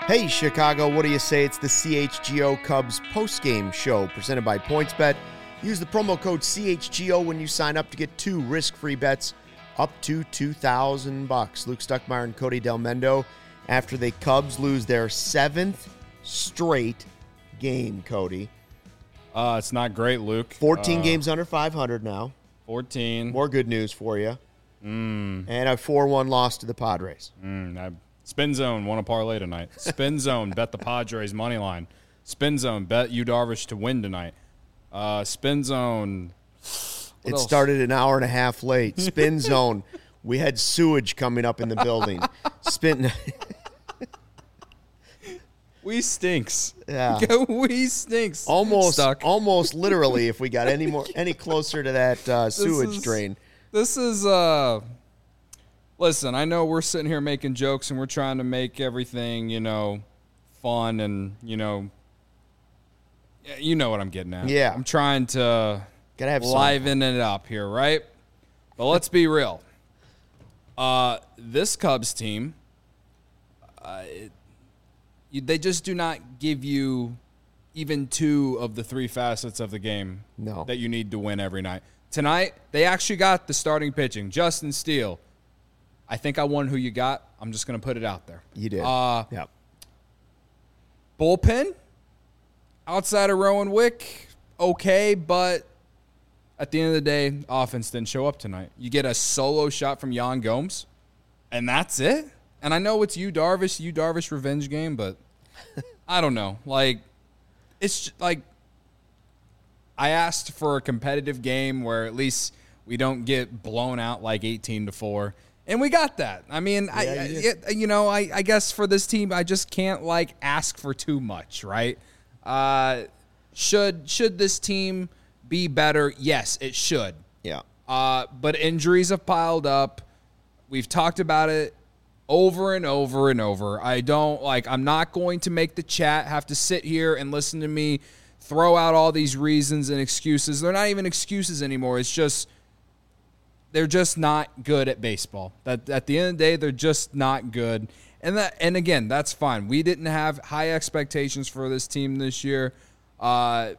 Hey, Chicago, what do you say? It's the CHGO Cubs postgame show presented by PointsBet. Use the promo code CHGO when you sign up to get 2 risk-free bets up to $2,000. Luke Stuckmeyer and Cody Del Mendo after the Cubs lose their 7th straight game, Cody. It's not great, Luke. 14 games under 500 now. 14. More good news for you. And a 4-1 loss to the Padres. Spin Zone won a parlay tonight. Spin Zone bet the Padres money line. Spin Zone bet Yu Darvish to win tonight. Spin Zone. It else? started an hour and a half late. Spin Zone. We had sewage coming up in the building. Spin. We stinks. Yeah. We stinks. Almost literally. If we got any closer to that sewage drain. This is Listen, I know we're sitting here making jokes and we're trying to make everything, fun and, you know what I'm getting at. Yeah. I'm trying to Gotta have liven it up here, right? But let's be real. This Cubs team, they just do not give you even 2 of the 3 facets of the game that you need to win every night. Tonight, they actually got the starting pitching. Justin Steele. I think I won who you got. I'm just going to put it out there. You did. Yeah. Bullpen, outside of Rowan Wick, okay, but at the end of the day, offense didn't show up tonight. You get a solo shot from Yan Gomes, and that's it? And I know it's Yu Darvish revenge game, but I don't know. It's just, I asked for a competitive game where at least we don't get blown out 18-4. And we got that. I mean, I guess for this team, I just can't ask for too much, right? Should this team be better? Yes, it should. Yeah. But injuries have piled up. We've talked about it over and over and over. I'm not going to make the chat have to sit here and listen to me throw out all these reasons and excuses. They're not even excuses anymore. It's just they're just not good at baseball. At the end of the day, they're just not good. And again, that's fine. We didn't have high expectations for this team this year. The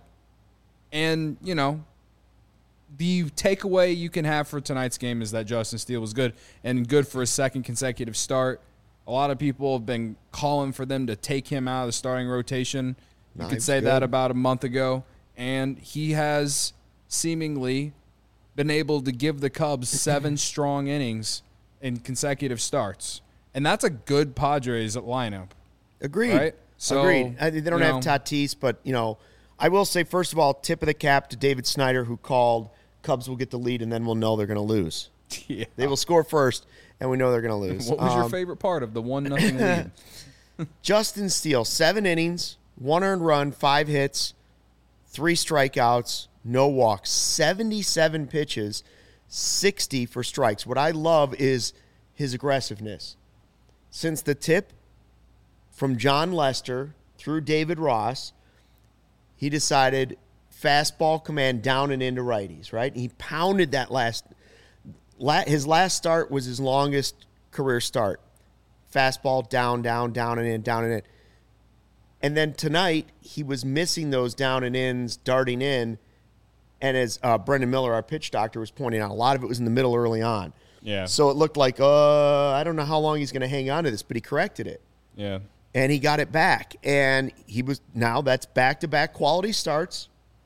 takeaway you can have for tonight's game is that Justin Steele was good and good for a second consecutive start. A lot of people have been calling for them to take him out of the starting rotation. You could say that about a month ago. And he has seemingly been able to give the Cubs 7 strong innings in consecutive starts. And that's a good Padres lineup. Agreed. Right? So, agreed. They don't have Tatis, but, I will say, first of all, tip of the cap to David Snyder, who called Cubs will get the lead and then we'll know they're going to lose. Yeah. They will score first, and we know they're going to lose. What was your favorite part of the 1-0 lead? Justin Steele, 7 innings, 1 earned run, 5 hits, 3 strikeouts, no walks, 77 pitches, 60 for strikes. What I love is his aggressiveness. Since the tip from John Lester through David Ross, he decided fastball command down and into righties, right? He pounded that his last start was his longest career start. Fastball down and in, down and in. And then tonight, he was missing those down and ins, darting in. And as Brendan Miller, our pitch doctor, was pointing out, a lot of it was in the middle early on. Yeah. So it looked like, I don't know how long he's going to hang on to this, but he corrected it. Yeah. And he got it back. And that's back-to-back quality starts.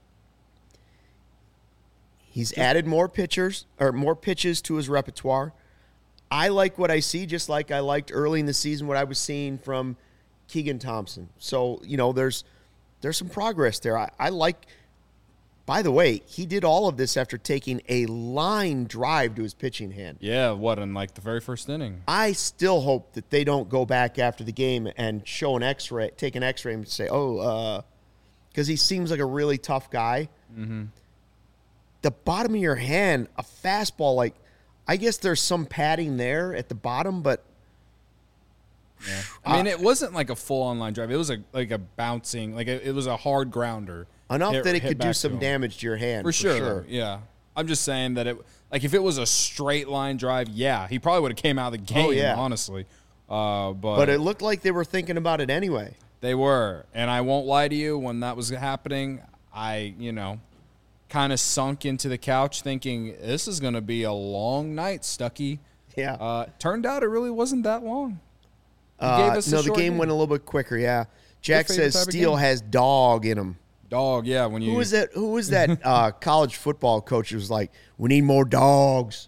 He's added more pitches to his repertoire. I like what I see, just like I liked early in the season what I was seeing from Keegan Thompson. So, there's some progress there. I like, by the way, he did all of this after taking a line drive to his pitching hand. Yeah, in the very first inning? I still hope that they don't go back after the game and show an X-ray, take an X-ray and say, because he seems like a really tough guy. Mm-hmm. The bottom of your hand, a fastball, I guess there's some padding there at the bottom, but yeah. I mean, it wasn't like a full-on line drive. It was a bouncing, it was a hard grounder. Enough that it could do some damage to your hand. For sure. Yeah. I'm just saying that if it was a straight line drive, yeah, he probably would have came out of the game, honestly. But it looked like they were thinking about it anyway. They were. And I won't lie to you, when that was happening, I, kind of sunk into the couch thinking, this is going to be a long night, Stuckey. Yeah. Turned out it really wasn't that long. The game went a little bit quicker, yeah. Jack says Steele has dog in him. Dog, yeah. Who was that college football coach who was like, we need more dogs?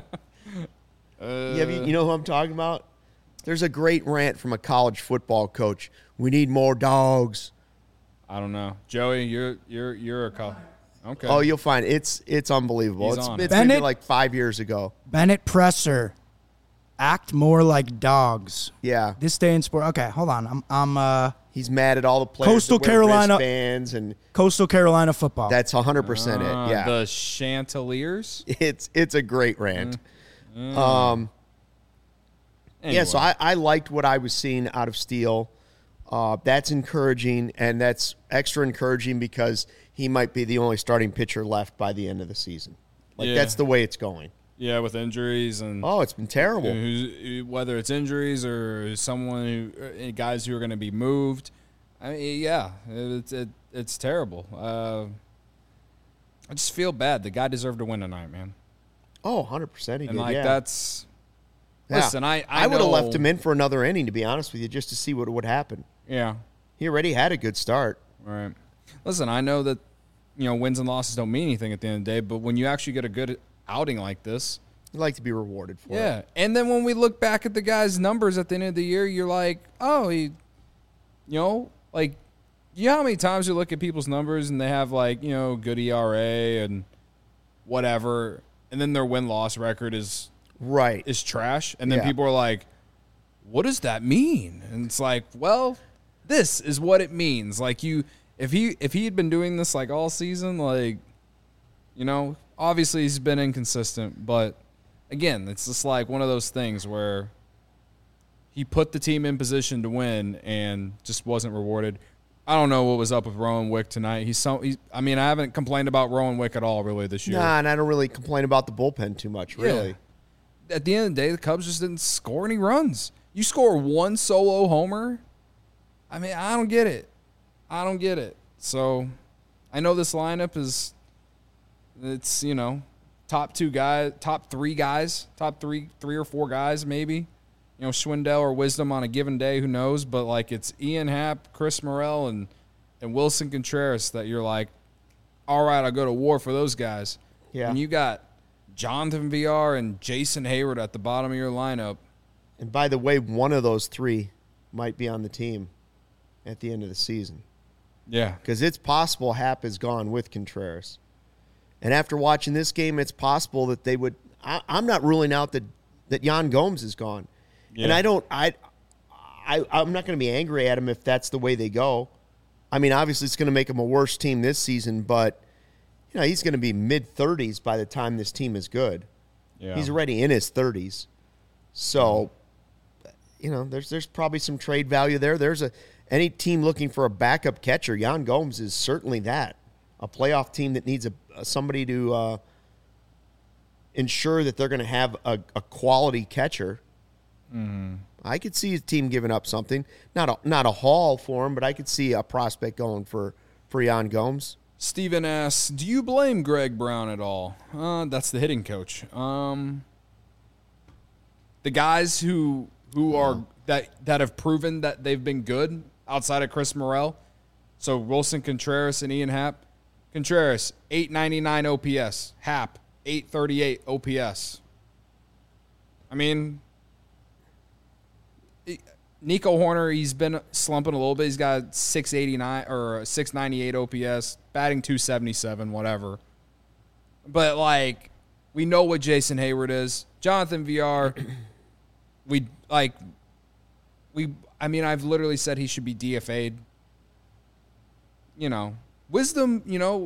You know who I'm talking about? There's a great rant from a college football coach. We need more dogs. I don't know. Joey, you're a college. Okay. Oh, you'll find it's unbelievable. It's maybe like 5 years ago. Bennett Presser, act more like dogs. Yeah. This day in sport. Okay, hold on. I'm He's mad at all the players. Coastal that wear Carolina wristbands and Coastal Carolina football. That's 100% it. Yeah. The Chanticleers. It's a great rant. Anyway. Yeah, so I liked what I was seeing out of Steele. That's encouraging, and that's extra encouraging because he might be the only starting pitcher left by the end of the season. That's the way it's going. Yeah, with injuries and it's been terrible. Whether it's injuries or guys who are going to be moved. I mean, yeah, it's terrible. I just feel bad. The guy deserved to win tonight, man. Oh, 100% he did. And that's. Yeah. Listen, I would have left him in for another inning, to be honest with you, just to see what would happen. Yeah. He already had a good start. Right. Listen, I know that wins and losses don't mean anything at the end of the day, but when you actually get a good outing like this, you like to be rewarded for it. Yeah. And then when we look back at the guy's numbers at the end of the year, you're like, oh, you know how many times you look at people's numbers and they have good ERA and whatever, and then their win-loss record is trash, and then people are like, what does that mean? And it's like, well, this is what it means. Like, if he had been doing this all season, obviously he's been inconsistent, but again, it's just one of those things where he put the team in position to win and just wasn't rewarded. I don't know what was up with Rowan Wick tonight. I haven't complained about Rowan Wick at all really this year. Nah, and I don't really complain about the bullpen too much, really. Yeah. At the end of the day, the Cubs just didn't score any runs. You score one solo homer, I don't get it. So I know this lineup it's top three or four guys maybe. Schwindel or Wisdom on a given day, who knows? But it's Ian Happ, Chris Morel, and Wilson Contreras that you're like, all right, I'll go to war for those guys. Yeah. And you got Jonathan VR and Jason Hayward at the bottom of your lineup. And by the way, one of those three might be on the team at the end of the season. Yeah. Because it's possible Happ is gone with Contreras. And after watching this game, it's possible that they would – I'm not ruling out that Yan Gomes is gone. Yeah. And I'm not going to be angry at him if that's the way they go. Obviously it's going to make him a worse team this season, but he's going to be mid-30s by the time this team is good. Yeah. He's already in his 30s. So, there's probably some trade value there. Any team looking for a backup catcher, Yan Gomes is certainly that. A playoff team that needs somebody to ensure that they're going to have a quality catcher. Mm-hmm. I could see a team giving up something. Not a haul for him, but I could see a prospect going for Yan Gomes. Steven asks, do you blame Greg Brown at all? That's the hitting coach. The guys who are that have proven that they've been good outside of Chris Morel, so Wilson Contreras and Ian Happ. Contreras, 899 OPS. Happ, 838 OPS. Nico Horner, he's been slumping a little bit. He's got 689 or 698 OPS, batting 277, whatever. But we know what Jason Hayward is. Jonathan VR, I've literally said he should be DFA'd. Wisdom,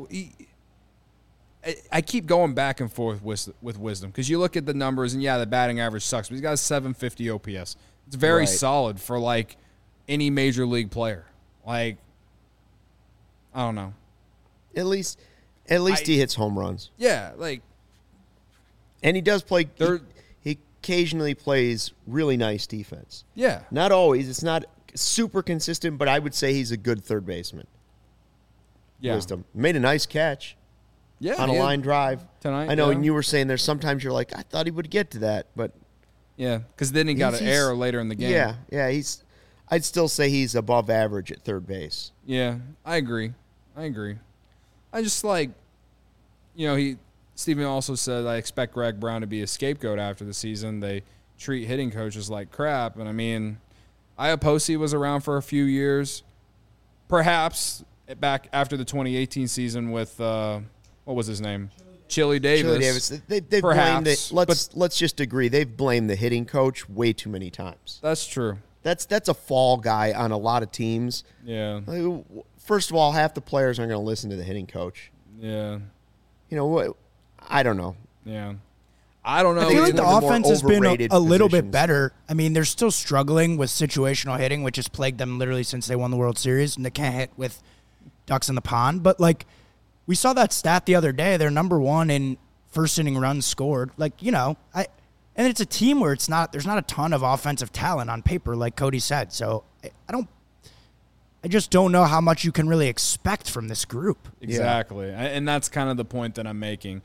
I keep going back and forth with Wisdom because you look at the numbers and the batting average sucks, but he's got a 750 OPS. It's very solid for any major league player. I don't know. At least he hits home runs. Yeah, and he does play. occasionally plays really nice defense. Yeah. Not always. It's not super consistent, but I would say he's a good third baseman. Yeah. Wisdom. Made a nice catch Yeah. on a line drive. Tonight, I know, yeah. and you were saying there's sometimes you're like, I thought he would get to that, but Yeah. Because then he got an he's- error later in the game. yeah, I'd still say he's above average at third base. Yeah. I agree. I just like, Stephen also said, I expect Greg Brown to be a scapegoat after the season. They treat hitting coaches like crap. And I mean, Iapoce was around for a few years. Perhaps back after the 2018 season with, what was his name? Chili Davis. Chili Davis. They've blamed it. Let's just agree. They've blamed the hitting coach way too many times. That's true. That's a fall guy on a lot of teams. Yeah. First of all, half the players aren't going to listen to the hitting coach. Yeah. You know what? I don't know. Yeah. I don't know. I feel like it's the one of the more offense has been overrated a little bit positions. better. I mean, they're still struggling with situational hitting, which has plagued them literally since they won the World Series, and they can't hit with ducks in the pond. But, like, we saw that stat the other day. They're number one in first inning runs scored. Like, and it's a team where there's not a ton of offensive talent on paper, like Cody said. So I just don't know how much you can really expect from this group. Exactly. And that's kind of the point that I'm making.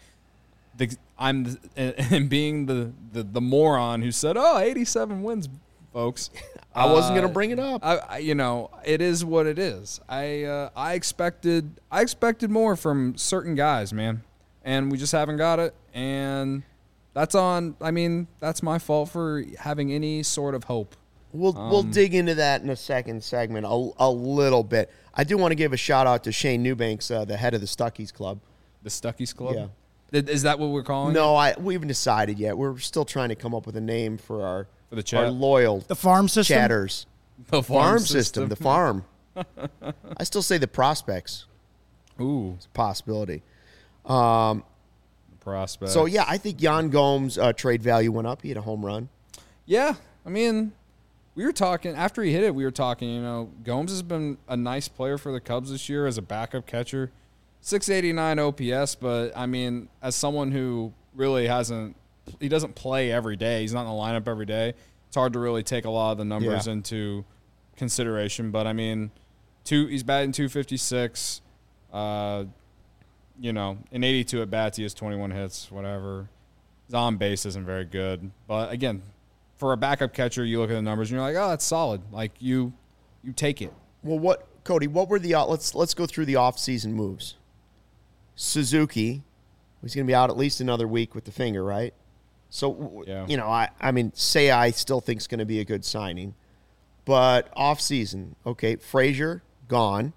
I'm being the moron who said, 87 wins, folks. I wasn't going to bring it up. It is what it is. I expected more from certain guys, man, and we just haven't got it. And that's my fault for having any sort of hope. We'll dig into that in a second segment a little bit. I do want to give a shout out to Shane Newbanks, the head of the Stuckies Club. The Stuckies Club. Yeah. Is that what we're calling it? No, we haven't decided yet. We're still trying to come up with a name for For the chat? our loyal The farm system? chatters. The Farm system, the farm. I still say the prospects. Ooh, It's a possibility. prospect. So, yeah, I think Jan Gomes' trade value went up. He had a home run. Yeah, I mean, we were talking after he hit it. We were talking. Gomes has been a nice player for the Cubs this year as a backup catcher. 689 OPS, but I mean, as someone who really he doesn't play every day. He's not in the lineup every day. It's hard to really take a lot of the numbers into consideration. But I mean, he's batting 256. In 82 at bats, he has 21 hits. Whatever. His on base isn't very good, but again, for a backup catcher, you look at the numbers and you're like, oh, that's solid. Like you take it. Well, Cody, what were the let's go through the offseason moves. Suzuki, he's going to be out at least another week with the finger, right? So, Yeah. I mean, I still think it's going to be a good signing. But offseason, okay, Frazier, gone.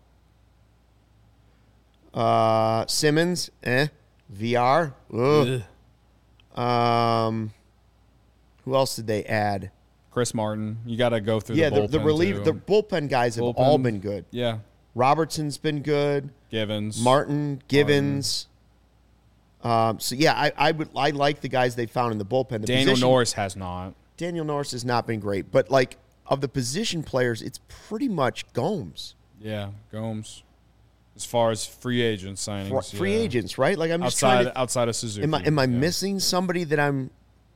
Simmons, VR, ugh. Who else did they add? Chris Martin, you got to go through Yeah, the bullpen. the reliever, the too. bullpen guys have Bullpen. all been good. Yeah, Robertson's been good. Givens. Martin, Givens. I like the guys they found in the bullpen. Daniel Norris has not. Daniel Norris has not been great, but like of the position players, it's pretty much Gomes. Yeah, Gomes. As far as free agent signings, Free yeah. agents, right? Like I'm just trying to. outside of Suzuki. Am I yeah. missing somebody that I'm?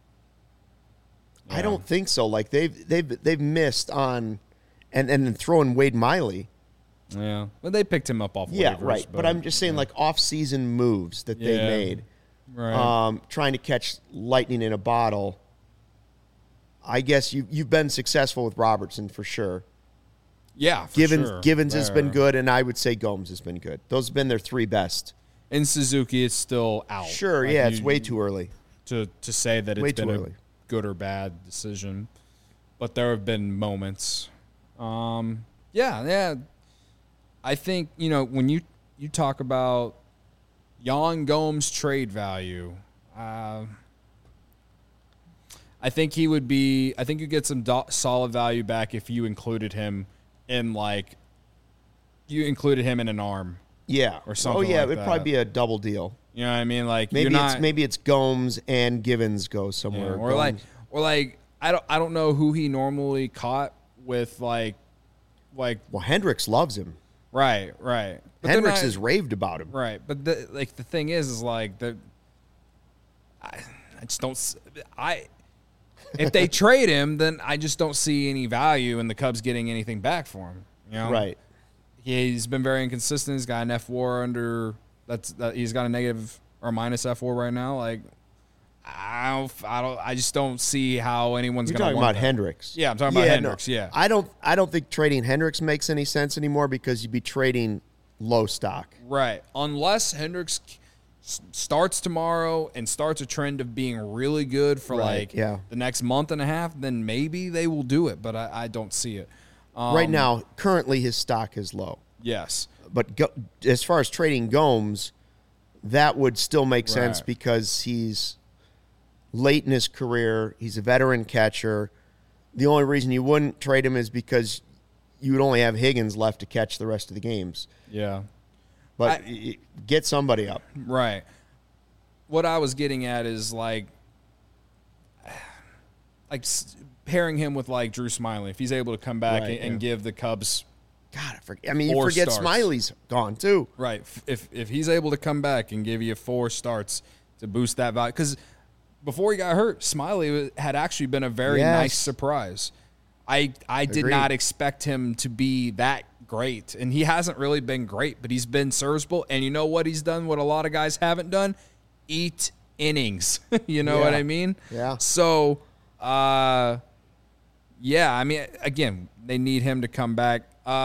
I Yeah. don't think so. Like they've missed on, and then throwing Wade Miley. Yeah, well, they picked him up off. Yeah, waivers, right. But I'm just saying, like off-season moves that they Yeah. made, right. trying to catch lightning in a bottle. I guess you've been successful with Robertson for sure. Yeah, for Givens sure. has been There. good, and I would say Gomes has been good. Those have been their three best. In Suzuki, it's still out. Sure, Like, yeah, it's way too early. to say that Way it's been too a early. good or bad decision, but there have been moments. Yeah. I think when you talk about Jan Gomes' trade value, I think he would be. I think you get some solid value back if you included him in an arm. Yeah, Or something Oh yeah, like it'd probably that. be a double deal. You know what I mean? Like Maybe it's Gomes and Givens go somewhere. or Gomes- like I don't know who he normally caught with like well, Hendricks loves him. right. But they're Hendricks not- has raved about him. right. But the thing is like I just don't. if they trade him, then I just don't see any value in the Cubs getting anything back for him. You know? Right. He's been very inconsistent. He's got an F4 under he's got a negative or minus F4 right now. Like I just don't see how anyone's You're going to talking want about that. Hendricks. Yeah, I'm talking about Hendricks. No, Yeah. I don't think trading Hendricks makes any sense anymore because you'd be trading low stock. Right. Unless Hendricks starts tomorrow and starts a trend of being really good for the next month and a half, then maybe they will do it, but I don't see it. Right now, currently his stock is low. Yes. But as far as trading Gomes, that would still make sense because he's late in his career. He's a veteran catcher. The only reason you wouldn't trade him is because you would only have Higgins left to catch the rest of the games. Yeah. But get somebody up. Right. What I was getting at is like pairing him with like Drew Smyly. If he's able to come back and give the Cubs, God, you forget starts. Smiley's gone too. Right. If he's able to come back and give you 4 starts to boost that value, because before he got hurt, Smyly had actually been a very nice surprise. I did not expect him to be that great, and he hasn't really been great, but he's been serviceable. And you know what he's done? What a lot of guys haven't done? Eat innings. You know what I mean? Yeah. So, I mean, again, they need him to come back.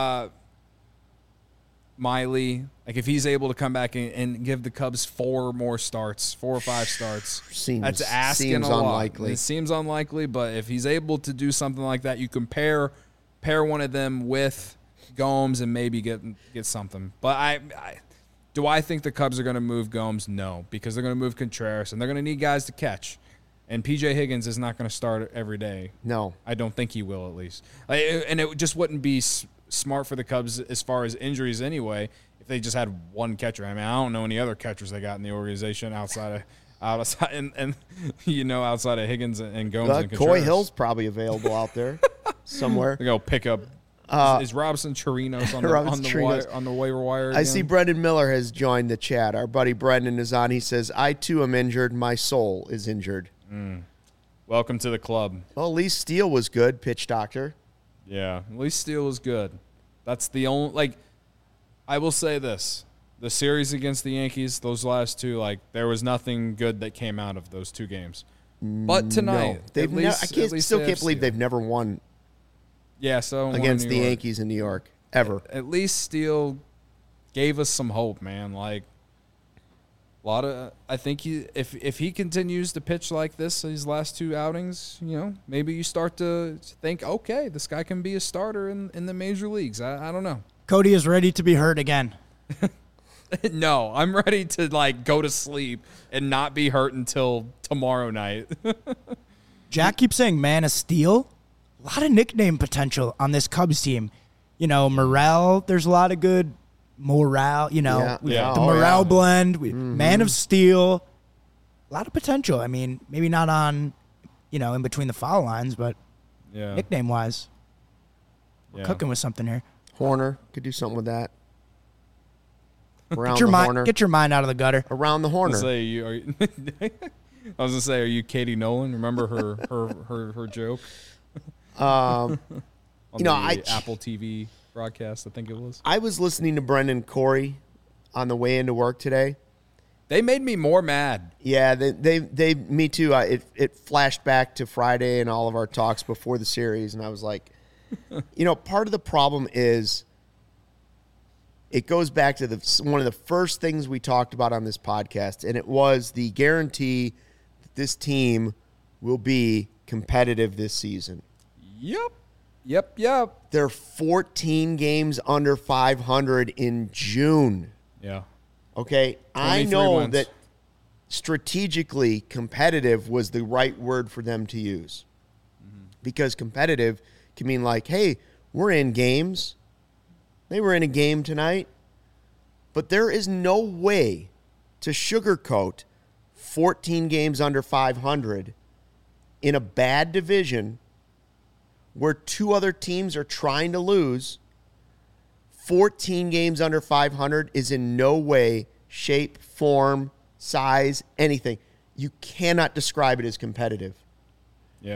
Miley, like if he's able to come back and give the Cubs 4 or 5 starts, that's asking a lot. Unlikely. It seems unlikely, but if he's able to do something like that, you can pair one of them with Gomes and maybe get something. But do I think the Cubs are going to move Gomes? No, because they're going to move Contreras and they're going to need guys to catch. And P.J. Higgins is not going to start every day. No. I don't think he will, at least. And it just wouldn't be smart for the Cubs as far as injuries anyway if they just had one catcher. I mean, I don't know any other catchers they got in the organization outside of Higgins and Gomes and Contreras. Coy Hill's probably available out there somewhere. They go pick up. Is Robinson Chirinos on the waiver wire again? I see Brendan Miller has joined the chat. Our buddy Brendan is on. He says, I too am injured. My soul is injured. Welcome to the club. Well, Lee Steele was good, pitch doctor. Yeah, Lee Steele was good. That's the only, I will say this. The series against the Yankees, those last 2, there was nothing good that came out of those 2 games. But tonight, I still can't believe they've never won against the Yankees in New York, ever. At least Steele gave us some hope, man. I think if he continues to pitch like this these last 2 outings, maybe you start to think, okay, this guy can be a starter in the major leagues. I don't know. Cody is ready to be hurt again. No, I'm ready to go to sleep and not be hurt until tomorrow night. Jack keeps saying Man of Steel. A lot of nickname potential on this Cubs team. Morel, there's a lot of good morale, the morale blend, Man of Steel, a lot of potential. I mean, maybe not on, in between the foul lines, but nickname wise, we're cooking with something here. Horner could do something with that. Get your mind out of the gutter. Around the Horner. I was gonna say, are you Katie Nolan? Remember her joke? On the Apple TV broadcast, I think it was. I was listening to Brendan Corey on the way into work today. They made me more mad. Yeah, they me too. It flashed back to Friday and all of our talks before the series, and I was like, part of the problem is it goes back to one of the first things we talked about on this podcast, and it was the guarantee that this team will be competitive this season. Yep. They're 14 games under 500 in June. Yeah. Okay? I know that strategically competitive was the right word for them to use. Because competitive can mean hey, we're in games. They were in a game tonight. But there is no way to sugarcoat 14 games under 500 in a bad division where 2 other teams are trying to lose. 14 games under 500 is in no way, shape, form, size, anything. You cannot describe it as competitive. Yeah.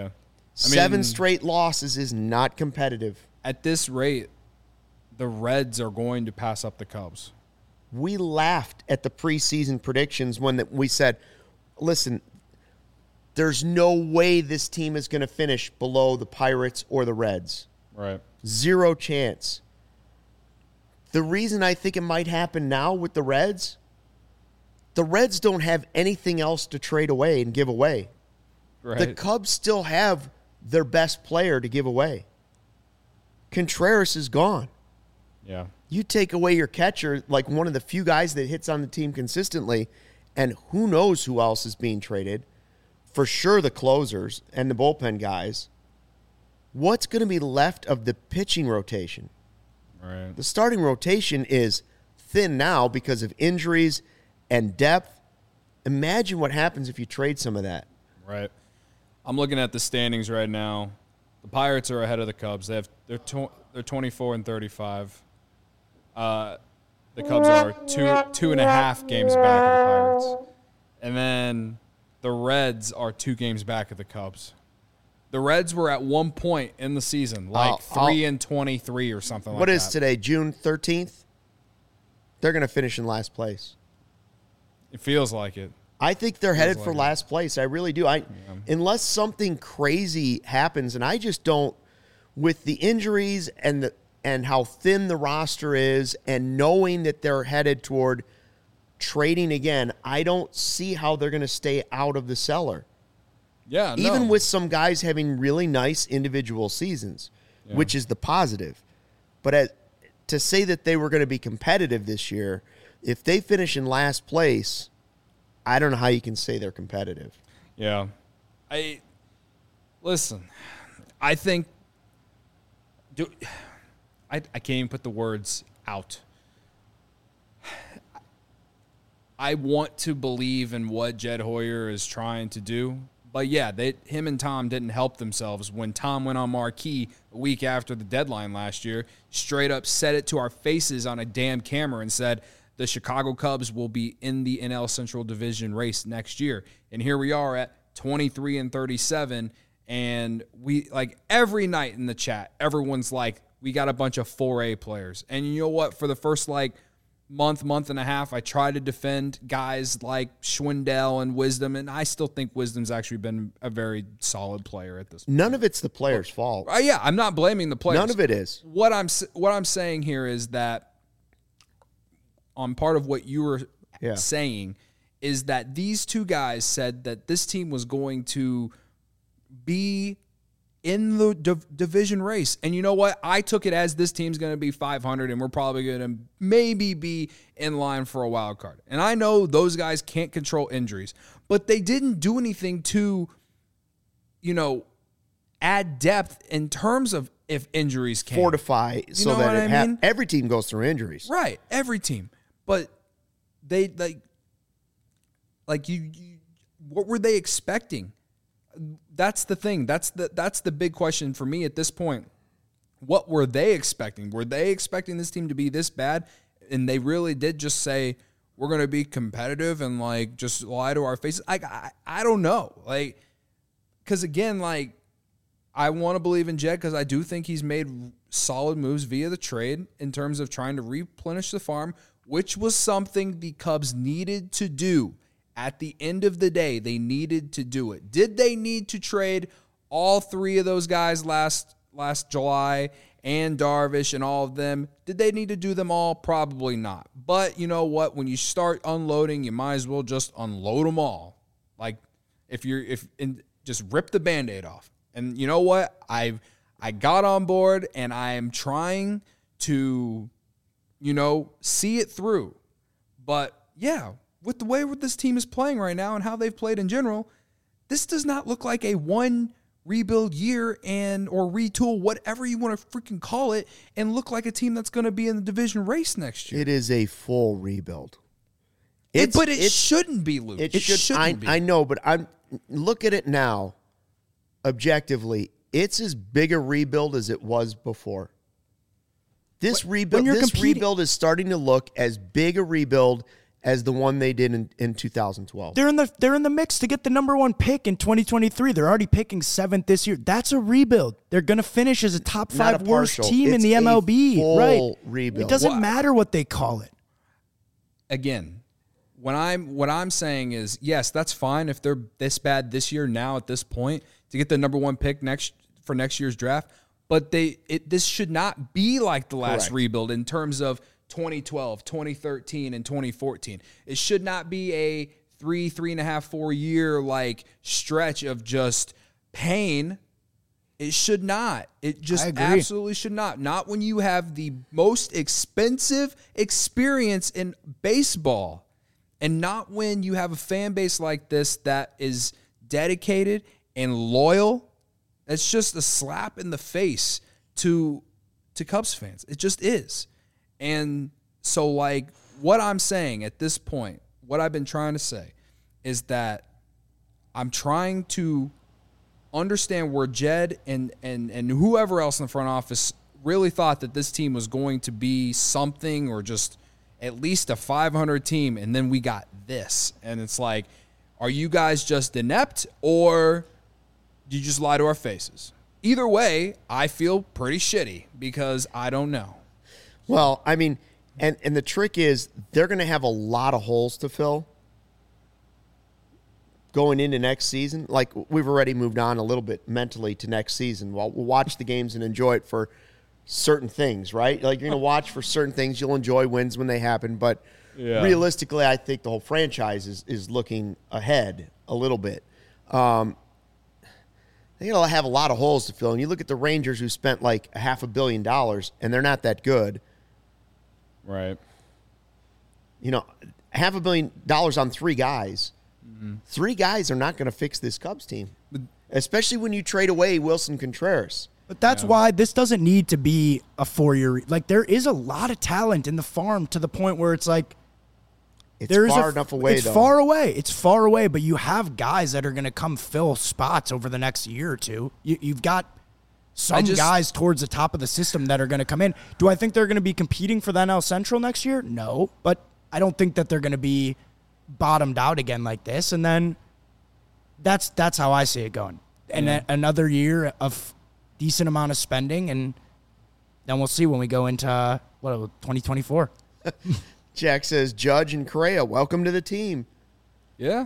7 straight losses is not competitive. At this rate, the Reds are going to pass up the Cubs. We laughed at the preseason predictions when we said, listen, there's no way this team is going to finish below the Pirates or the Reds. Right. 0 chance. The reason I think it might happen now with the Reds don't have anything else to trade away and give away. Right. The Cubs still have their best player to give away. Contreras is gone. Yeah. You take away your catcher, like one of the few guys that hits on the team consistently, and who knows who else is being traded. For sure the closers and the bullpen guys. What's going to be left of the pitching rotation? Right. The starting rotation is thin now because of injuries and depth. Imagine what happens if you trade some of that. Right. I'm looking at the standings right now. The Pirates are ahead of the Cubs. They're 24 and 35. The Cubs are two and a half games back of the Pirates. And then the Reds are 2 games back of the Cubs. The Reds were at one point in the season, like 3 and 23 or something like that. What is today, June 13th? They're going to finish in last place. It feels like it. I think they're headed for last place. I really do. Unless something crazy happens, and I just don't, with the injuries and how thin the roster is and knowing that they're headed toward trading again, I don't see how they're going to stay out of the cellar. Yeah, no. Even with some guys having really nice individual seasons, which is the positive. But to say that they were going to be competitive this year, if they finish in last place, I don't know how you can say they're competitive. Yeah. Listen, I think I can't even put the words out. I want to believe in what Jed Hoyer is trying to do. But, yeah, him and Tom didn't help themselves when Tom went on Marquee a week after the deadline last year, straight up said it to our faces on a damn camera and said the Chicago Cubs will be in the NL Central Division race next year. And here we are at 23 and 37, and we, like, every night in the chat, everyone's like, we got a bunch of 4A players. And you know what? For the first, month and a half, I try to defend guys like Schwindel and Wisdom, and I still think Wisdom's actually been a very solid player at this point. None of it's the player's fault. Yeah, I'm not blaming the players. None of it is. What I'm saying here is that on part of what you were saying is that these 2 guys said that this team was going to be in the division race. And you know what? I took it as this team's going to be 500 and we're probably going to maybe be in line for a wild card. And I know those guys can't control injuries, but they didn't do anything to, add depth in terms of if injuries came. Fortify so that every team goes through injuries. Right. Every team. But they what were they expecting? That's the thing. That's the big question for me at this point. What were they expecting? Were they expecting this team to be this bad? And they really did just say, we're going to be competitive and just lie to our faces. I don't know. Because again, I want to believe in Jed because I do think he's made solid moves via the trade in terms of trying to replenish the farm, which was something the Cubs needed to do. At the end of the day, they needed to do it. Did they need to trade all 3 of those guys last July and Darvish and all of them? Did they need to do them all? Probably not. But you know what? When you start unloading, you might as well just unload them all. Just rip the Band-Aid off. And you know what? I got on board and I am trying to, see it through. But yeah, with the way this team is playing right now and how they've played in general, this does not look like a one rebuild year or retool, whatever you want to freaking call it, and look like a team that's going to be in the division race next year. It is a full rebuild. But it shouldn't be, Luke. It shouldn't be. I know, but look at it now. Objectively, it's as big a rebuild as it was before. This rebuild is starting to look as big a rebuild as the one they did in 2012. They're in the mix to get the number 1 pick in 2023. They're already picking 7th this year. That's a rebuild. They're going to finish as a top 5 worst team in the MLB. Full right. rebuild. It doesn't matter what they call it. Again, what I'm saying is, yes, that's fine if they're this bad this year now at this point to get the number 1 pick for next year's draft. But this should not be like the last Correct. rebuild in terms of 2012, 2013, and 2014. It should not be a 3.5, 4 year like stretch of just pain. It should not. It just absolutely should not. Not when you have the most expensive experience in baseball, and not when you have a fan base like this that is dedicated and loyal. It's just a slap in the face to Cubs fans. It just is. And so, like, what I'm saying at this point, what I've been trying to say is that I'm trying to understand where Jed and whoever else in the front office really thought that this team was going to be something or just at least a 500 team, and then we got this. And it's like, are you guys just inept, or do you just lie to our faces? Either way, I feel pretty shitty because I don't know. Well, I mean, and the trick is they're going to have a lot of holes to fill going into next season. Like, we've already moved on a little bit mentally to next season. Well, we'll watch the games and enjoy it for certain things, right? Like, you're going to watch for certain things. You'll enjoy wins when they happen. But realistically, I think the whole franchise is looking ahead a little bit. They're going to have a lot of holes to fill. And you look at the Rangers, who spent like $500 million, and they're not that good. Right. You know, $500 million on 3 guys. 3 guys are not going to fix this Cubs team, especially when you trade away Wilson Contreras. But that's why this doesn't need to be a 4-year. Like, there is a lot of talent in the farm to the point where it's like, It's far enough away, it's though. far away. It's far away, but you have guys that are going to come fill spots over the next year or two. You've got some guys towards the top of the system that are going to come in. Do I think they're going to be competing for the NL Central next year? No, but I don't think that they're going to be bottomed out again like this. And then that's how I see it going. And another year of decent amount of spending, and then we'll see when we go into 2024. Jack says, Judge and Correa, welcome to the team. Yeah.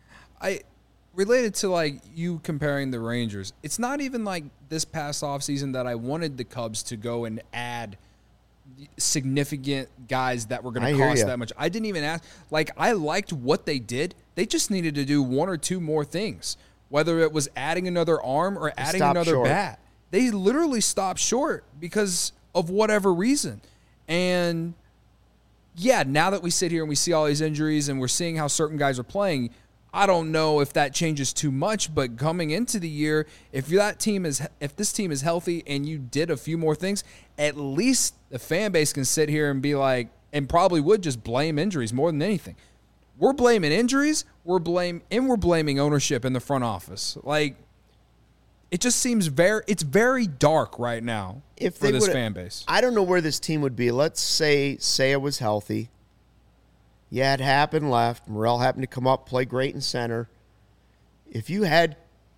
Related to, like, you comparing the Rangers, it's not even like this past offseason that I wanted the Cubs to go and add significant guys that were going to cost that much. I didn't even ask. Like, I liked what they did. They just needed to do 1 or 2 more things, whether it was adding another arm or adding another bat. They literally stopped short because of whatever reason. And yeah, now that we sit here and we see all these injuries and we're seeing how certain guys are playing, I don't know if that changes too much, but coming into the year, if this team is healthy and you did a few more things, at least the fan base can sit here and be like, and probably would just blame injuries more than anything. We're blaming injuries, we're blaming ownership in the front office. Like, it just seems very dark right now for this fan base. I don't know where this team would be. Let's say Seiya was healthy. Yeah, it happened left. Morel happened to come up, play great in center. If you had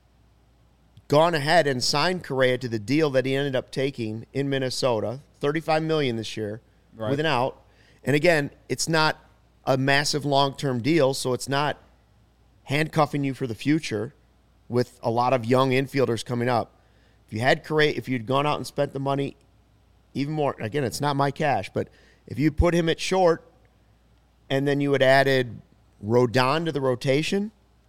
gone ahead and signed Correa to the deal that he ended up taking in Minnesota, $35 million this year, with an out, and again, it's not a massive long-term deal, so it's not handcuffing you for the future with a lot of young infielders coming up. If you had Correa, if you'd gone out and spent the money even more, again, it's not my cash, but if you put him at short, and then you had added Rodon to the rotation,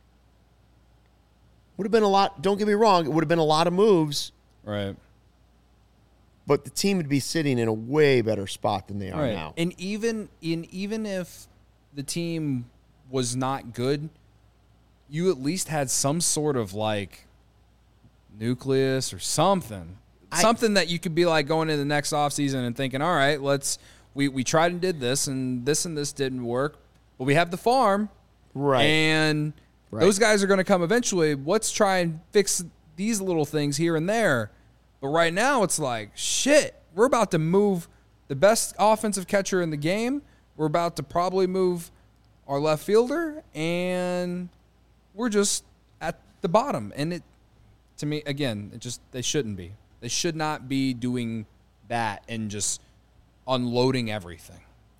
would have been a lot. Don't get me wrong, it would have been a lot of moves. Right. But the team would be sitting in a way better spot than they are now. And even if the team was not good, you at least had some sort of like nucleus or something. Something that you could be like going into the next offseason and thinking, all right, we tried and did this and this didn't work, but we have the farm. Right. And those guys are going to come eventually. Let's try and fix these little things here and there. But right now it's like, shit, we're about to move the best offensive catcher in the game. We're about to probably move our left fielder, and we're just at the bottom. And it, to me, again, they shouldn't be. They should not be doing that and just unloading everything.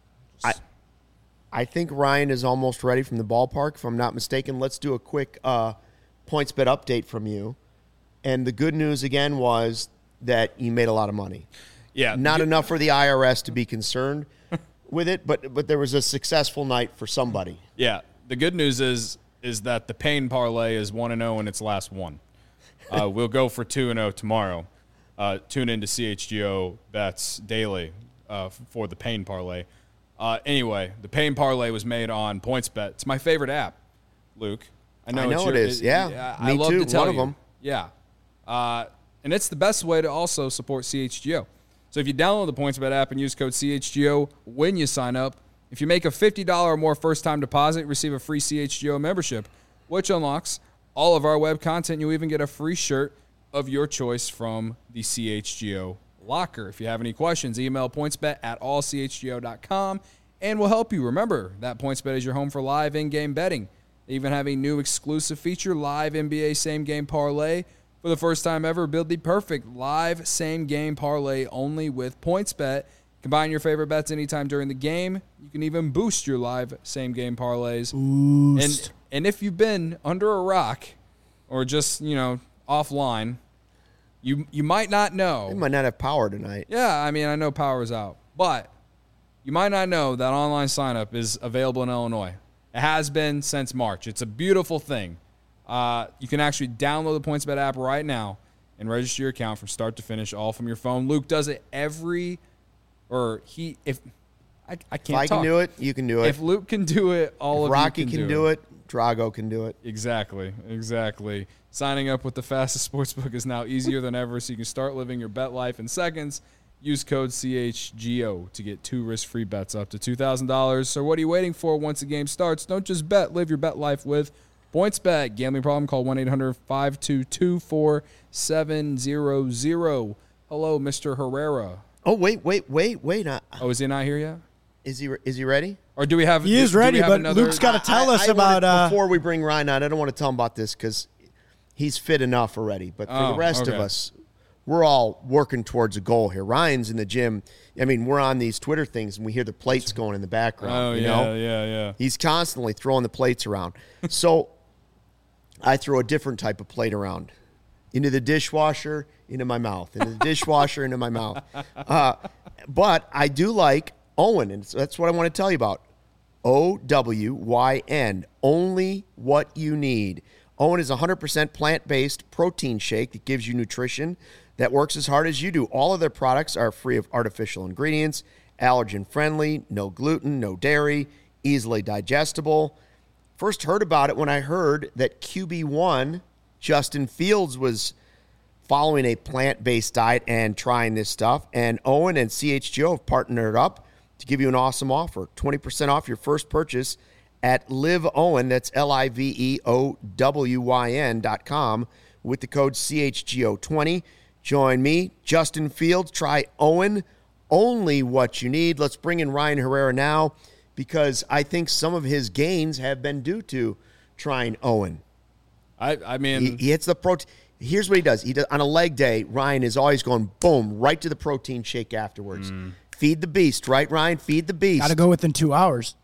I think Ryan is almost ready from the ballpark, if I'm not mistaken. Let's do a quick PointsBet update from you. And the good news, again, was that you made a lot of money. Yeah. Not enough for the IRS to be concerned with it, but there was a successful night for somebody. Yeah. The good news is that the Payne parlay is 1-0 in its last one. We'll go for 2-0 tomorrow. Tune into CHGO Bets daily for the Payne parlay. Anyway, the Payne parlay was made on PointsBet. It's my favorite app, Luke. I know it is. Yeah, I me love too. to tell One of you. them. Yeah. And it's the best way to also support CHGO. So if you download the PointsBet app and use code CHGO when you sign up, if you make a $50 or more first-time deposit, receive a free CHGO membership, which unlocks all of our web content. You'll even get a free shirt of your choice from the CHGO locker. If you have any questions, email pointsbet@allchgo.com and we'll help you. Remember that PointsBet is your home for live in-game betting. They even have a new exclusive feature, Live NBA Same Game Parlay. For the first time ever, build the perfect live same game parlay only with PointsBet. Combine your favorite bets anytime during the game. You can even boost your live same game parlays. And if you've been under a rock or just, offline, you might not know. We might not have power tonight. Yeah, I mean, I know power's out. But you might not know that online sign-up is available in Illinois. It has been since March. It's a beautiful thing. You can actually download the PointsBet app right now and register your account from start to finish, all from your phone. Luke does it I can't If I can do it, you can do it. If Luke can do it, all if of Rocky you can do it. Drago can do it. Exactly. Signing up with the fastest sportsbook is now easier than ever, so you can start living your bet life in seconds. Use code CHGO to get 2 risk-free bets up to $2,000. So what are you waiting for once the game starts? Don't just bet. Live your bet life with PointsBet. Gambling problem? Call 1-800-522-4700. Hello, Mr. Herrera. Oh, wait. Oh, is he not here yet? Is he ready? Or do we have? He is ready, but another? Luke's got to tell us about. Before we bring Ryan on, I don't want to tell him about this because he's fit enough already. But for the rest of us, we're all working towards a goal here. Ryan's in the gym. I mean, we're on these Twitter things, and we hear the plates going in the background. Oh, yeah. He's constantly throwing the plates around. So I throw a different type of plate around. Into the dishwasher, into my mouth. Into the dishwasher, into my mouth. But I do like Owen, and that's what I want to tell you about. OWYN, only what you need. Owen is a 100% plant-based protein shake that gives you nutrition that works as hard as you do. All of their products are free of artificial ingredients, allergen-friendly, no gluten, no dairy, easily digestible. First heard about it when I heard that QB1, Justin Fields, was following a plant-based diet and trying this stuff. And Owen and CHGO have partnered up to give you an awesome offer. 20% off your first purchase at LiveOwen, that's LiveOWyn.com, with the code CHGO20. Join me, Justin Fields. Try Owen, only what you need. Let's bring in Ryan Herrera now because I think some of his gains have been due to trying Owen. I mean, he hits the protein. Here's what he does. On a leg day, Ryan is always going, boom, right to the protein shake afterwards. Feed the beast, right, Ryan? Feed the beast. Got to go within 2 hours.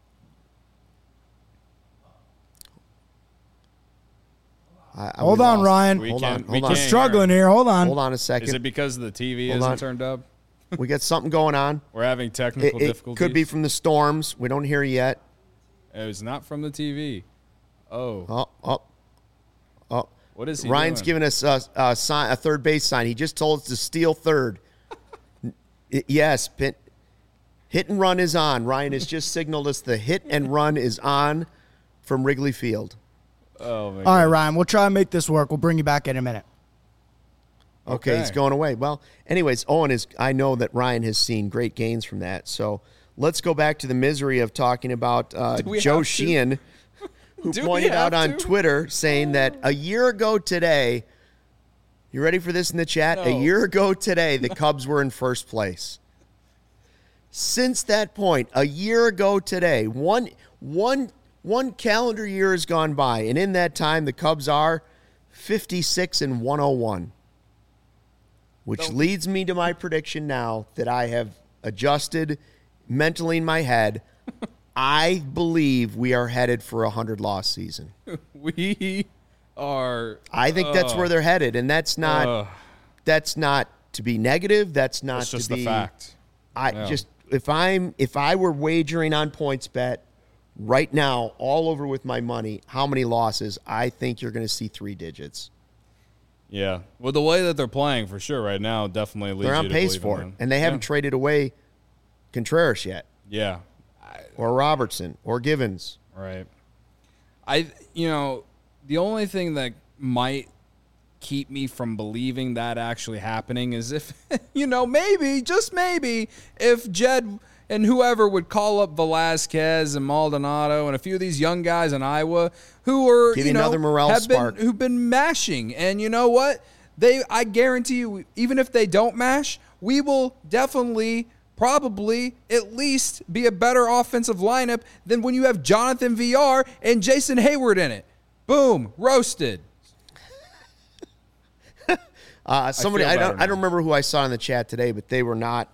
Hold on, Ryan. We're struggling here. Hold on. Hold on a second. Is it because the TV isn't turned up? We got something going on. We're having technical difficulties. It could be from the storms. We don't hear yet. It was not from the TV. Oh. What is he Ryan's doing? giving us a third base sign. He just told us to steal third. Yes, hit and run is on. Ryan has just signaled us the hit and run is on from Wrigley Field. Oh, my God. All right, Ryan, we'll try and make this work. We'll bring you back in a minute. Okay, he's going away. Well, anyways, I know that Ryan has seen great gains from that. So let's go back to the misery of talking about Joe Sheehan, who pointed out on Twitter saying that a year ago today, you ready for this in the chat? No. A year ago today, the Cubs were in first place. Since that point, a year ago today, one calendar year has gone by, and in that time, the Cubs are 56-101, which leads me to my prediction now that I have adjusted mentally in my head. I believe we are headed for a 100-loss season. We are. I think that's where they're headed, and that's not to be negative. That's not It's just to be the fact. If I were wagering on PointsBet right now, all over with my money, how many losses? I think you're going to see 3 digits. Yeah. Well, the way that they're playing for sure right now definitely leads They're you on to pace believe for in it, them. and they haven't traded away Contreras yet, Yeah. or Robertson, or Givens. Right. The only thing that might keep me from believing that actually happening is if, maybe, just maybe, if Jed and whoever would call up Velasquez and Maldonado and a few of these young guys in Iowa who are, Give you another morale spark. who've been mashing. And you know what? I guarantee you, even if they don't mash, we will definitely probably at least be a better offensive lineup than when you have Jonathan VR and Jason Hayward in it. Boom, roasted. Somebody, I don't remember who I saw in the chat today, but they were not.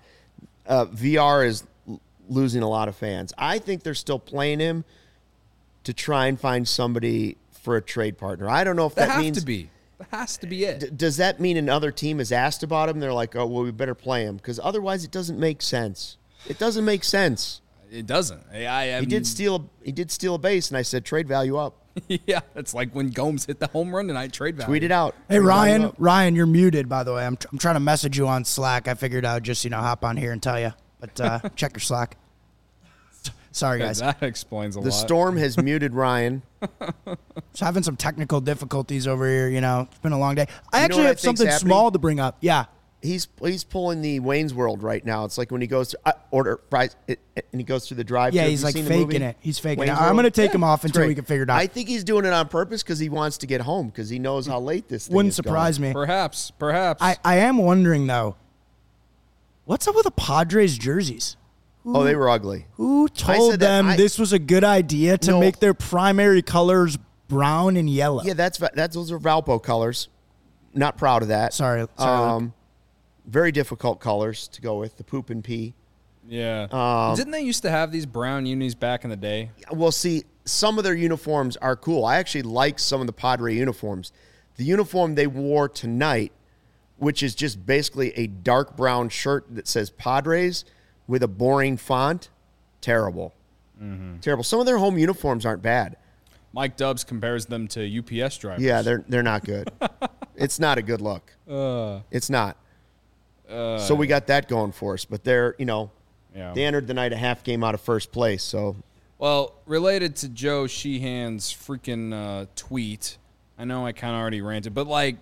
VR is losing a lot of fans. I think they're still playing him to try and find somebody for a trade partner. I don't know if that means That has to be it. Does that mean another team has asked about him? They're like, oh, well, we better play him because otherwise it doesn't make sense. It doesn't make sense. It doesn't. He did steal a base, and I said trade value up. Yeah, it's like when Gomes hit the home run tonight. Trade value. Tweet it out. Hey, Trade value up. Ryan, you're muted, by the way. I'm trying to message you on Slack. I figured I'd just, hop on here and tell you. But check your Slack. Sorry, guys. That explains a lot. The Storm has muted Ryan. Just having some technical difficulties over here, It's been a long day. I know actually what I have think's something happening? small to bring up. Yeah. He's pulling the Wayne's World right now. It's like when he goes to order fries and he goes through the drive-thru. Yeah, Have he's you like seen the faking movie? it. He's faking Wayne's it. I'm World? going to take him off It's until great. we can figure it out. I think he's doing it on purpose because he wants to get home because he knows how late this thing Wouldn't is surprise going. me. Perhaps. I am wondering, though, what's up with the Padres jerseys? Oh, they were ugly. Who told said that them this was a good idea to No. make their primary colors brown and yellow? Yeah, those are Valpo colors. Not proud of that. Sorry. Very difficult colors to go with, the poop and pee. Yeah. Didn't they used to have these brown unis back in the day? Well, see, some of their uniforms are cool. I actually like some of the Padre uniforms. The uniform they wore tonight, which is just basically a dark brown shirt that says Padres with a boring font, terrible. Mm-hmm. Terrible. Some of their home uniforms aren't bad. Mike Dubs compares them to UPS drivers. Yeah, they're not good. It's not a good look. It's not. So we got that going for us. But they're, they entered the night a half game out of first place. So, Well, related to Joe Sheehan's freaking tweet, I know I kind of already ranted, but like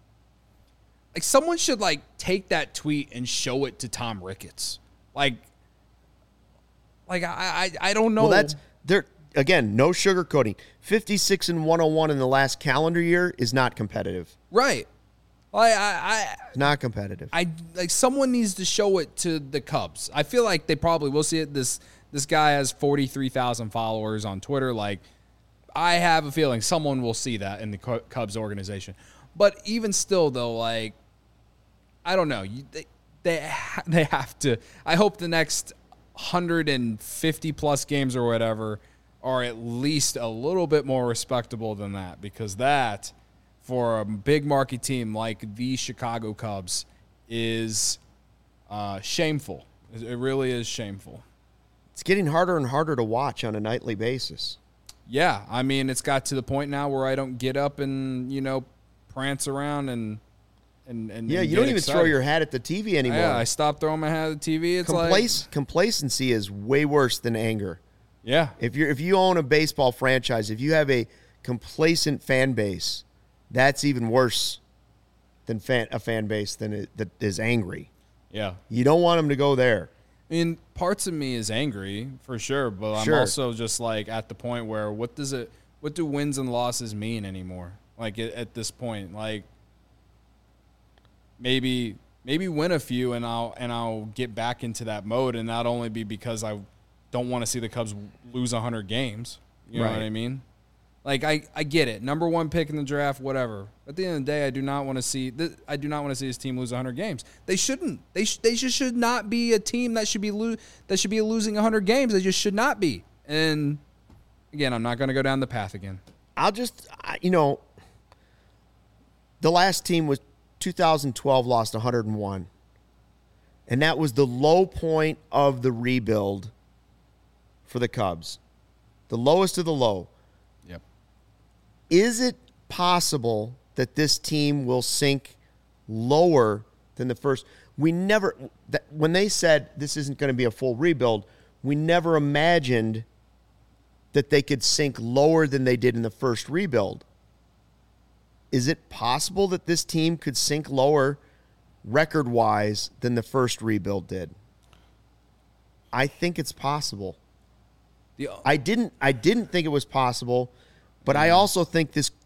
someone should take that tweet and show it to Tom Ricketts. I don't know. well, that's they're again no sugarcoating. 56-101 in the last calendar year is not competitive. right. Not competitive. Someone needs to show it to the Cubs. I feel like they probably will see it. This guy has 43,000 followers on Twitter. I have a feeling someone will see that in the Cubs organization. But even still, though, I don't know. They have to. I hope the next 150 plus games or whatever are at least a little bit more respectable than that, because that, for a big market team like the Chicago Cubs, is shameful. It really is shameful. It's getting harder and harder to watch on a nightly basis. Yeah, I mean, it's got to the point now where I don't get up and prance around and Yeah, you don't even throw your hat at the TV anymore. Yeah, I stopped throwing my hat at the TV. It's Complacency is way worse than anger. yeah, If you own a baseball franchise, if you have a complacent fan base, that's even worse than a fan base that is angry. yeah. You don't want them to go there. I mean, parts of me is angry for sure, but Sure. I'm also just at the point where what do wins and losses mean anymore? At this point, maybe maybe win a few, and I'll get back into that mode, and not only be because I don't want to see the Cubs lose 100 games. You know Right. what I mean? Like I get it. Number 1 pick in the draft, whatever. At the end of the day, I do not want to see this team lose 100 games. They shouldn't. They just should not be a team that should be losing 100 games. They just should not be. And again, I'm not going to go down the path again. The last team was 2012, lost 101. And that was the low point of the rebuild for the Cubs. The lowest of the low. Yep. Is it possible that this team will sink lower than the first? When they said this isn't going to be a full rebuild, we never imagined that they could sink lower than they did in the first rebuild. Is it possible that this team could sink lower record-wise than the first rebuild did? I think it's possible. I didn't think it was possible, but I also think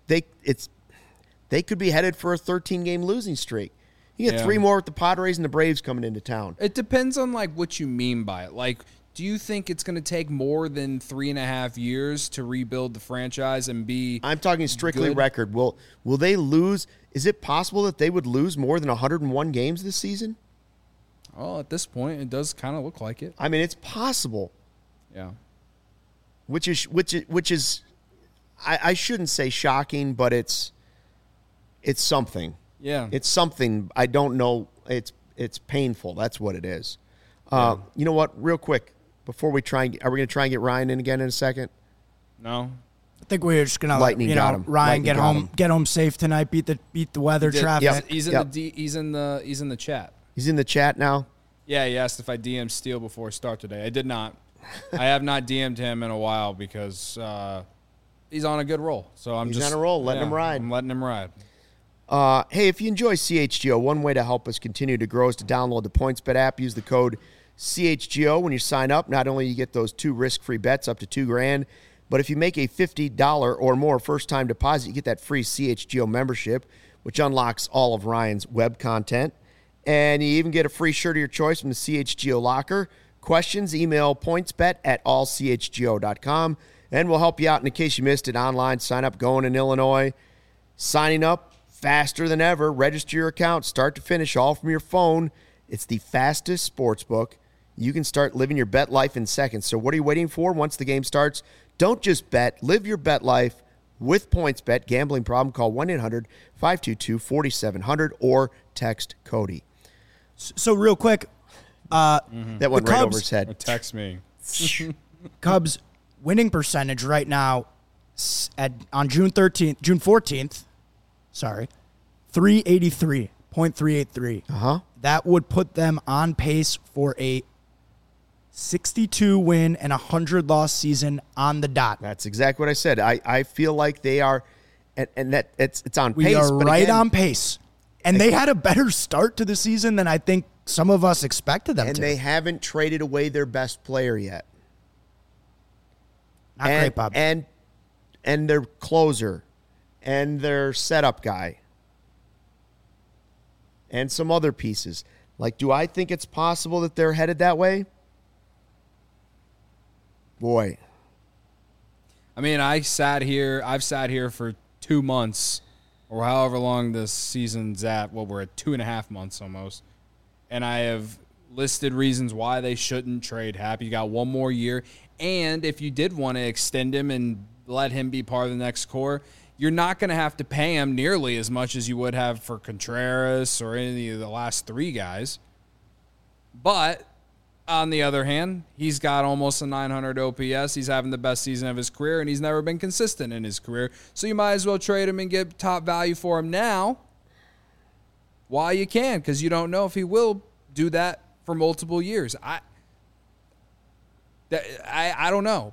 they could be headed for a 13-game losing streak. You get 3 more with the Padres and the Braves coming into town. It depends on like what you mean by it. Like, do you think it's going to take more than 3.5 years to rebuild the franchise and be? I'm talking strictly good? record. Will they lose? Is it possible that they would lose more than 101 games this season? Oh, at this point, it does kind of look like it. I mean, it's possible. Yeah. Which is, I shouldn't say shocking, but it's something. Yeah. It's something. I don't know. It's painful. That's what it is. You know what? Real quick, before we are we going to try and get Ryan in again in a second? No. I think we're just gonna Lightning got him. Ryan Lightning get home safe tonight. Beat the weather traffic. Yep. He's in the chat. He's in the chat now. Yeah, he asked if I DM'd Steele before start today. I did not. I have not DM'd him in a while because he's on a good roll. So He's on a roll. Letting him ride. I'm letting him ride. Hey, if you enjoy CHGO, one way to help us continue to grow is to download the PointsBet app. Use the code CHGO when you sign up. Not only you get those 2 risk-free bets up to $2,000, but if you make a $50 or more first-time deposit, you get that free CHGO membership, which unlocks all of Ryan's web content. And you even get a free shirt of your choice from the CHGO locker. Questions, email pointsbet@allchgo.com, and we'll help you out in case you missed it. Online sign-up going in Illinois. Signing up faster than ever. Register your account, start to finish, all from your phone. It's the fastest sportsbook. You can start living your bet life in seconds. So what are you waiting for? Once the game starts, don't just bet. Live your bet life with PointsBet. Gambling problem? Call 1-800-522-4700 or text Cody. So real quick, That went right Cubs- over his head. Or text me. Cubs winning percentage right now on June 14th, 383.383. Uh-huh. That would put them on pace for a 62 win and 100 loss season on the dot. That's exactly what I said. I feel like they are, and that it's on We pace. are but right again, on pace. And they had a better start to the season than I think some of us expected them and to. they haven't traded away their best player yet. Not great, Bob. And their closer, and their setup guy, and some other pieces. Like, do I think it's possible that they're headed that way? Boy. I mean, I've sat here for 2 months or however long this season's at. Well, we're at 2.5 months almost. And I have listed reasons why they shouldn't trade Happ. You got 1 more year. And if you did want to extend him and let him be part of the next core, you're not going to have to pay him nearly as much as you would have for Contreras or any of the last 3 guys. But on the other hand, he's got almost a 900 OPS. He's having the best season of his career, and he's never been consistent in his career. So you might as well trade him and get top value for him now while you can, because you don't know if he will do that for multiple years. I don't know.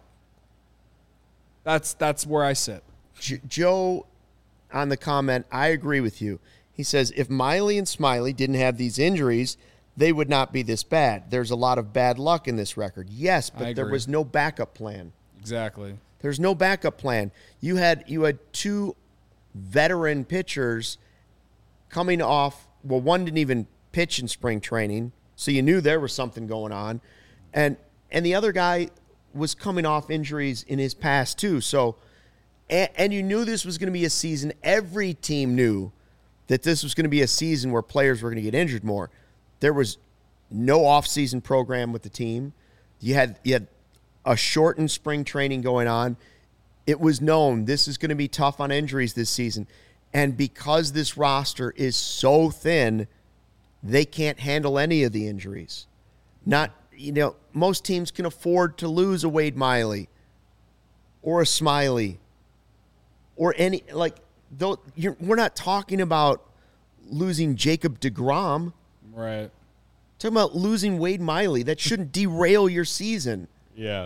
That's where I sit. Joe, on the comment, I agree with you. He says, if Miley and Smiley didn't have these injuries, they would not be this bad. There's a lot of bad luck in this record. Yes, but there was no backup plan. Exactly. There's no backup plan. You had 2 veteran pitchers coming off. Well, one didn't even pitch in spring training, so you knew there was something going on. And the other guy was coming off injuries in his past too. So, and you knew this was going to be a season. Every team knew that this was going to be a season where players were going to get injured more. There was no off-season program with the team. You had a shortened spring training going on. It was known this is going to be tough on injuries this season. And because this roster is so thin, they can't handle any of the injuries. Most teams can afford to lose a Wade Miley or a Smiley or we're not talking about losing Jacob deGrom. Right. Talking about losing Wade Miley. That shouldn't derail your season. Yeah.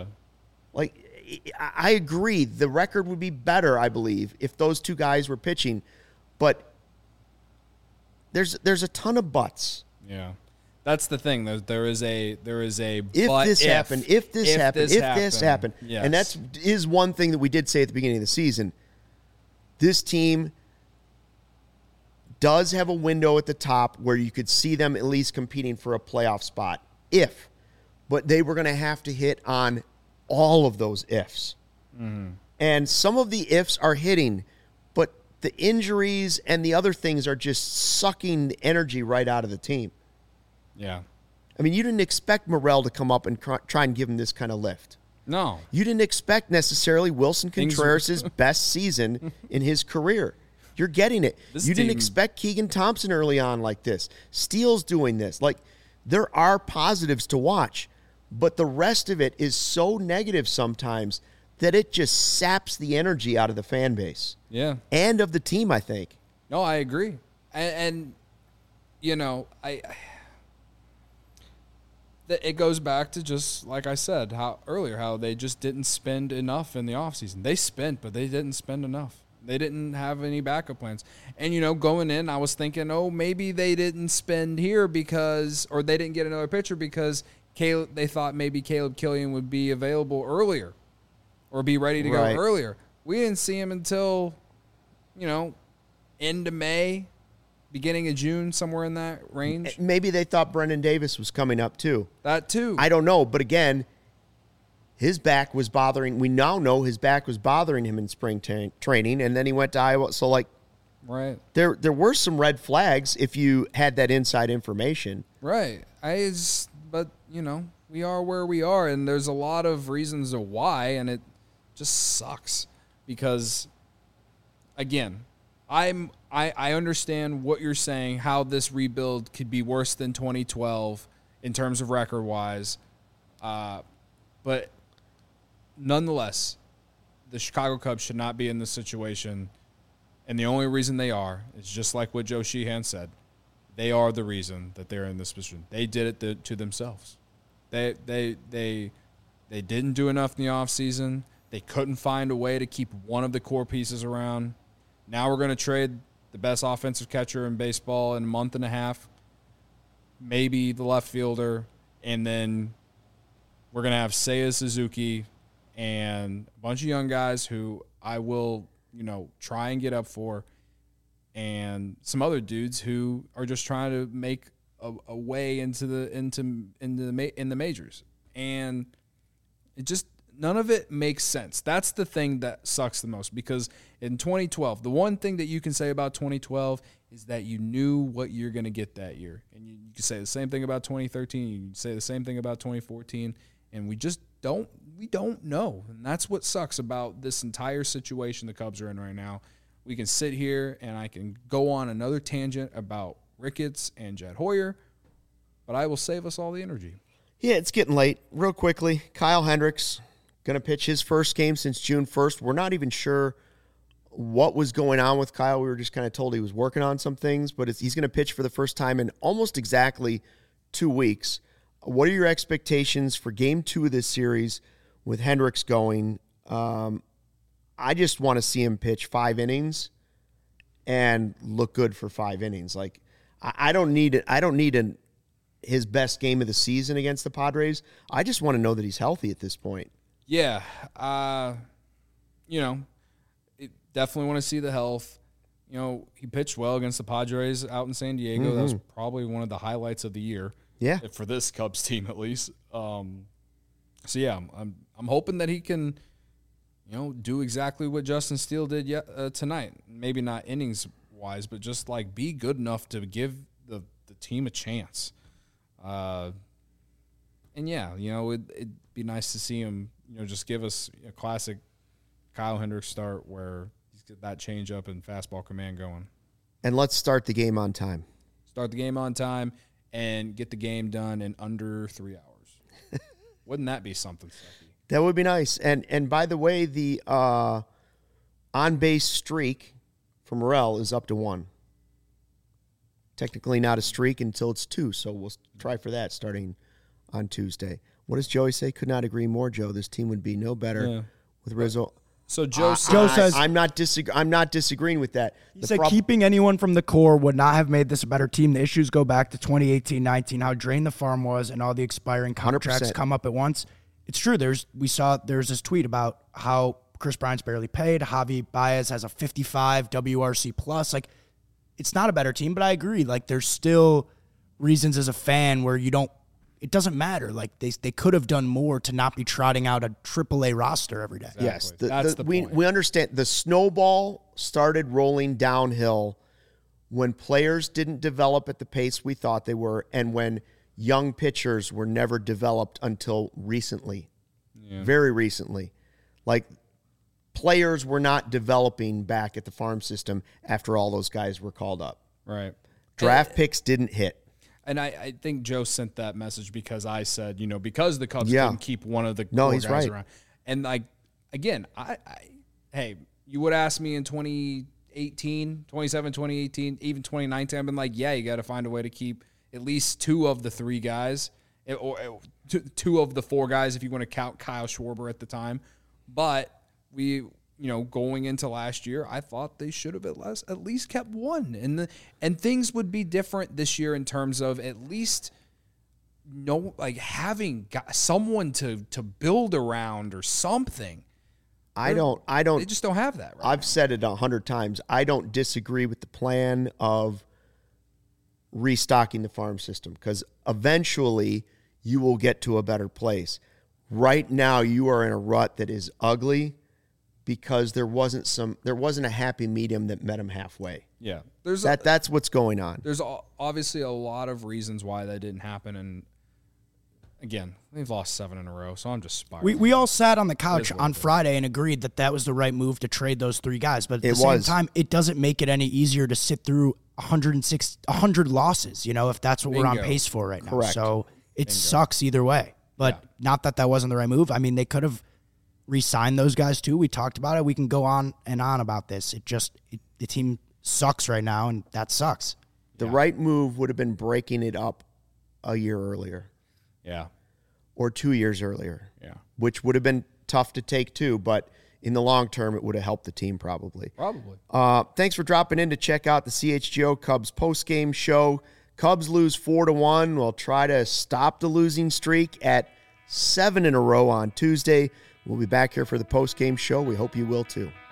I agree. The record would be better, I believe, if those two guys were pitching. But there's a ton of buts. Yeah. That's the thing. There is a if this happened. Yes. And that is one thing that we did say at the beginning of the season. This team does have a window at the top where you could see them at least competing for a playoff spot. But they were going to have to hit on all of those ifs. Mm-hmm. And some of the ifs are hitting, but the injuries and the other things are just sucking the energy right out of the team. Yeah. I mean, you didn't expect Morel to come up and try and give him this kind of lift. No. You didn't expect necessarily Wilson Contreras' best season in his career. You're getting it. You didn't expect Keegan Thompson early on like this. Steele's doing this. There are positives to watch, but the rest of it is so negative sometimes that it just saps the energy out of the fan base. Yeah. And of the team, I think. No, I agree. And it goes back to just like I said how they just didn't spend enough in the offseason. They spent, but they didn't spend enough. They didn't have any backup plans. And, going in, I was thinking, maybe they didn't spend here or they didn't get another pitcher because they thought maybe Caleb Killian would be available earlier or be ready to go earlier. We didn't see him until, end of May, beginning of June, somewhere in that range. Maybe they thought Brendan Davis was coming up too. That too. I don't know. But again, his back was bothering. We now know his back was bothering him in spring training, and then he went to Iowa. So, right. There were some red flags if you had that inside information. Right. But we are where we are, and there's a lot of reasons of why, and it just sucks because, again, I understand what you're saying, how this rebuild could be worse than 2012 in terms of record-wise, but nonetheless, the Chicago Cubs should not be in this situation, and the only reason they are is just like what Joe Sheehan said. They are the reason that they're in this position. They did it to themselves. They didn't do enough in the offseason. They couldn't find a way to keep one of the core pieces around. Now we're going to trade the best offensive catcher in baseball in a month and a half, maybe the left fielder, and then we're going to have Seiya Suzuki and a bunch of young guys who I will, try and get up for, and some other dudes who are just trying to make a way into the majors, and it just none of it makes sense. That's the thing that sucks the most because in 2012, the one thing that you can say about 2012 is that you knew what you're going to get that year, and you can say the same thing about 2013. You can say the same thing about 2014, and we just don't know, and that's what sucks about this entire situation the Cubs are in right now. We can sit here and I can go on another tangent about Ricketts and Jed Hoyer, but I will save us all the energy. Yeah, it's getting late. Real quickly, Kyle Hendricks going to pitch his first game since June 1st. We're not even sure what was going on with Kyle. We were just kind of told he was working on some things, but he's going to pitch for the first time in almost exactly 2 weeks. What are your expectations for game 2 of this series with Hendricks going? I just want to see him pitch 5 innings and look good for 5 innings. I don't need it. I don't need his best game of the season against the Padres. I just want to know that he's healthy at this point. Yeah. Definitely want to see the health. he pitched well against the Padres out in San Diego. That was probably one of the highlights of the year. Yeah. For this Cubs team, at least. I'm hoping that he can, do exactly what Justin Steele did tonight. Maybe not innings wise, but just like be good enough to give the team a chance. And yeah, it'd be nice to see him, just give us a classic Kyle Hendricks start where he's got that changeup and fastball command going. And let's start the game on time. Start the game on time and get the game done in under 3 hours. Wouldn't that be something, Stephie? That would be nice. And by the way, the on-base streak for Morel is up to 1. Technically not a streak until it's 2, so we'll try for that starting on Tuesday. What does Joey say? Could not agree more, Joe. This team would be no better with Rizzo. So Joe says I'm not disagreeing with that. He said keeping anyone from the core would not have made this a better team. The issues go back to 2018-19, how drained the farm was, and all the expiring contracts 100%. come up at once. It's true. There's this tweet about how Chris Bryant's barely paid. Javi Baez has a 55 WRC plus. Like, it's not a better team, but I agree. Like, there's still reasons as a fan where it doesn't matter. Like, they could have done more to not be trotting out a AAA roster every day. Exactly. Yes, That's the point. We understand the snowball started rolling downhill when players didn't develop at the pace we thought they were, and when young pitchers were never developed until recently, very recently. Like, players were not developing back at the farm system after all those guys were called up. Right. Draft picks didn't hit. And I think Joe sent that message because I said, because the Cubs couldn't keep one of the core he's guys right. around. And again, hey, you would ask me in 2018, 2018, even 2019, I've been like, yeah, you got to find a way to keep at least 2 of the 3 guys, or 2 of the 4 guys if you want to count Kyle Schwarber at the time. But we, going into last year, I thought they should have at least kept 1, and things would be different this year in terms of at least having someone to build around or something. I don't. They just don't have that. Right I've now. said it 100 times. I don't disagree with the plan of restocking the farm system because eventually you will get to a better place. Right now, you are in a rut that is ugly because there wasn't a happy medium that met them halfway. Yeah, That's what's going on. There's obviously a lot of reasons why that didn't happen, and again, they've lost 7 in a row, so I'm just spiraling. We all sat on the couch on Friday and agreed that was the right move to trade those 3 guys. But at the same time, it doesn't make it any easier to sit through 100 losses, if that's what we're on pace for right now. Correct. So it sucks either way. But not that wasn't the right move. I mean, they could have re-signed those guys too. We talked about it. We can go on and on about this. The team sucks right now, and that sucks. The right move would have been breaking it up a year earlier. Yeah. Or 2 years earlier. Yeah. Which would have been tough to take too, but in the long term, it would have helped the team probably. Thanks for dropping in to check out the CHGO Cubs postgame show. Cubs lose 4-1. We'll try to stop the losing streak at 7 in a row on Tuesday. We'll be back here for the postgame show. We hope you will too.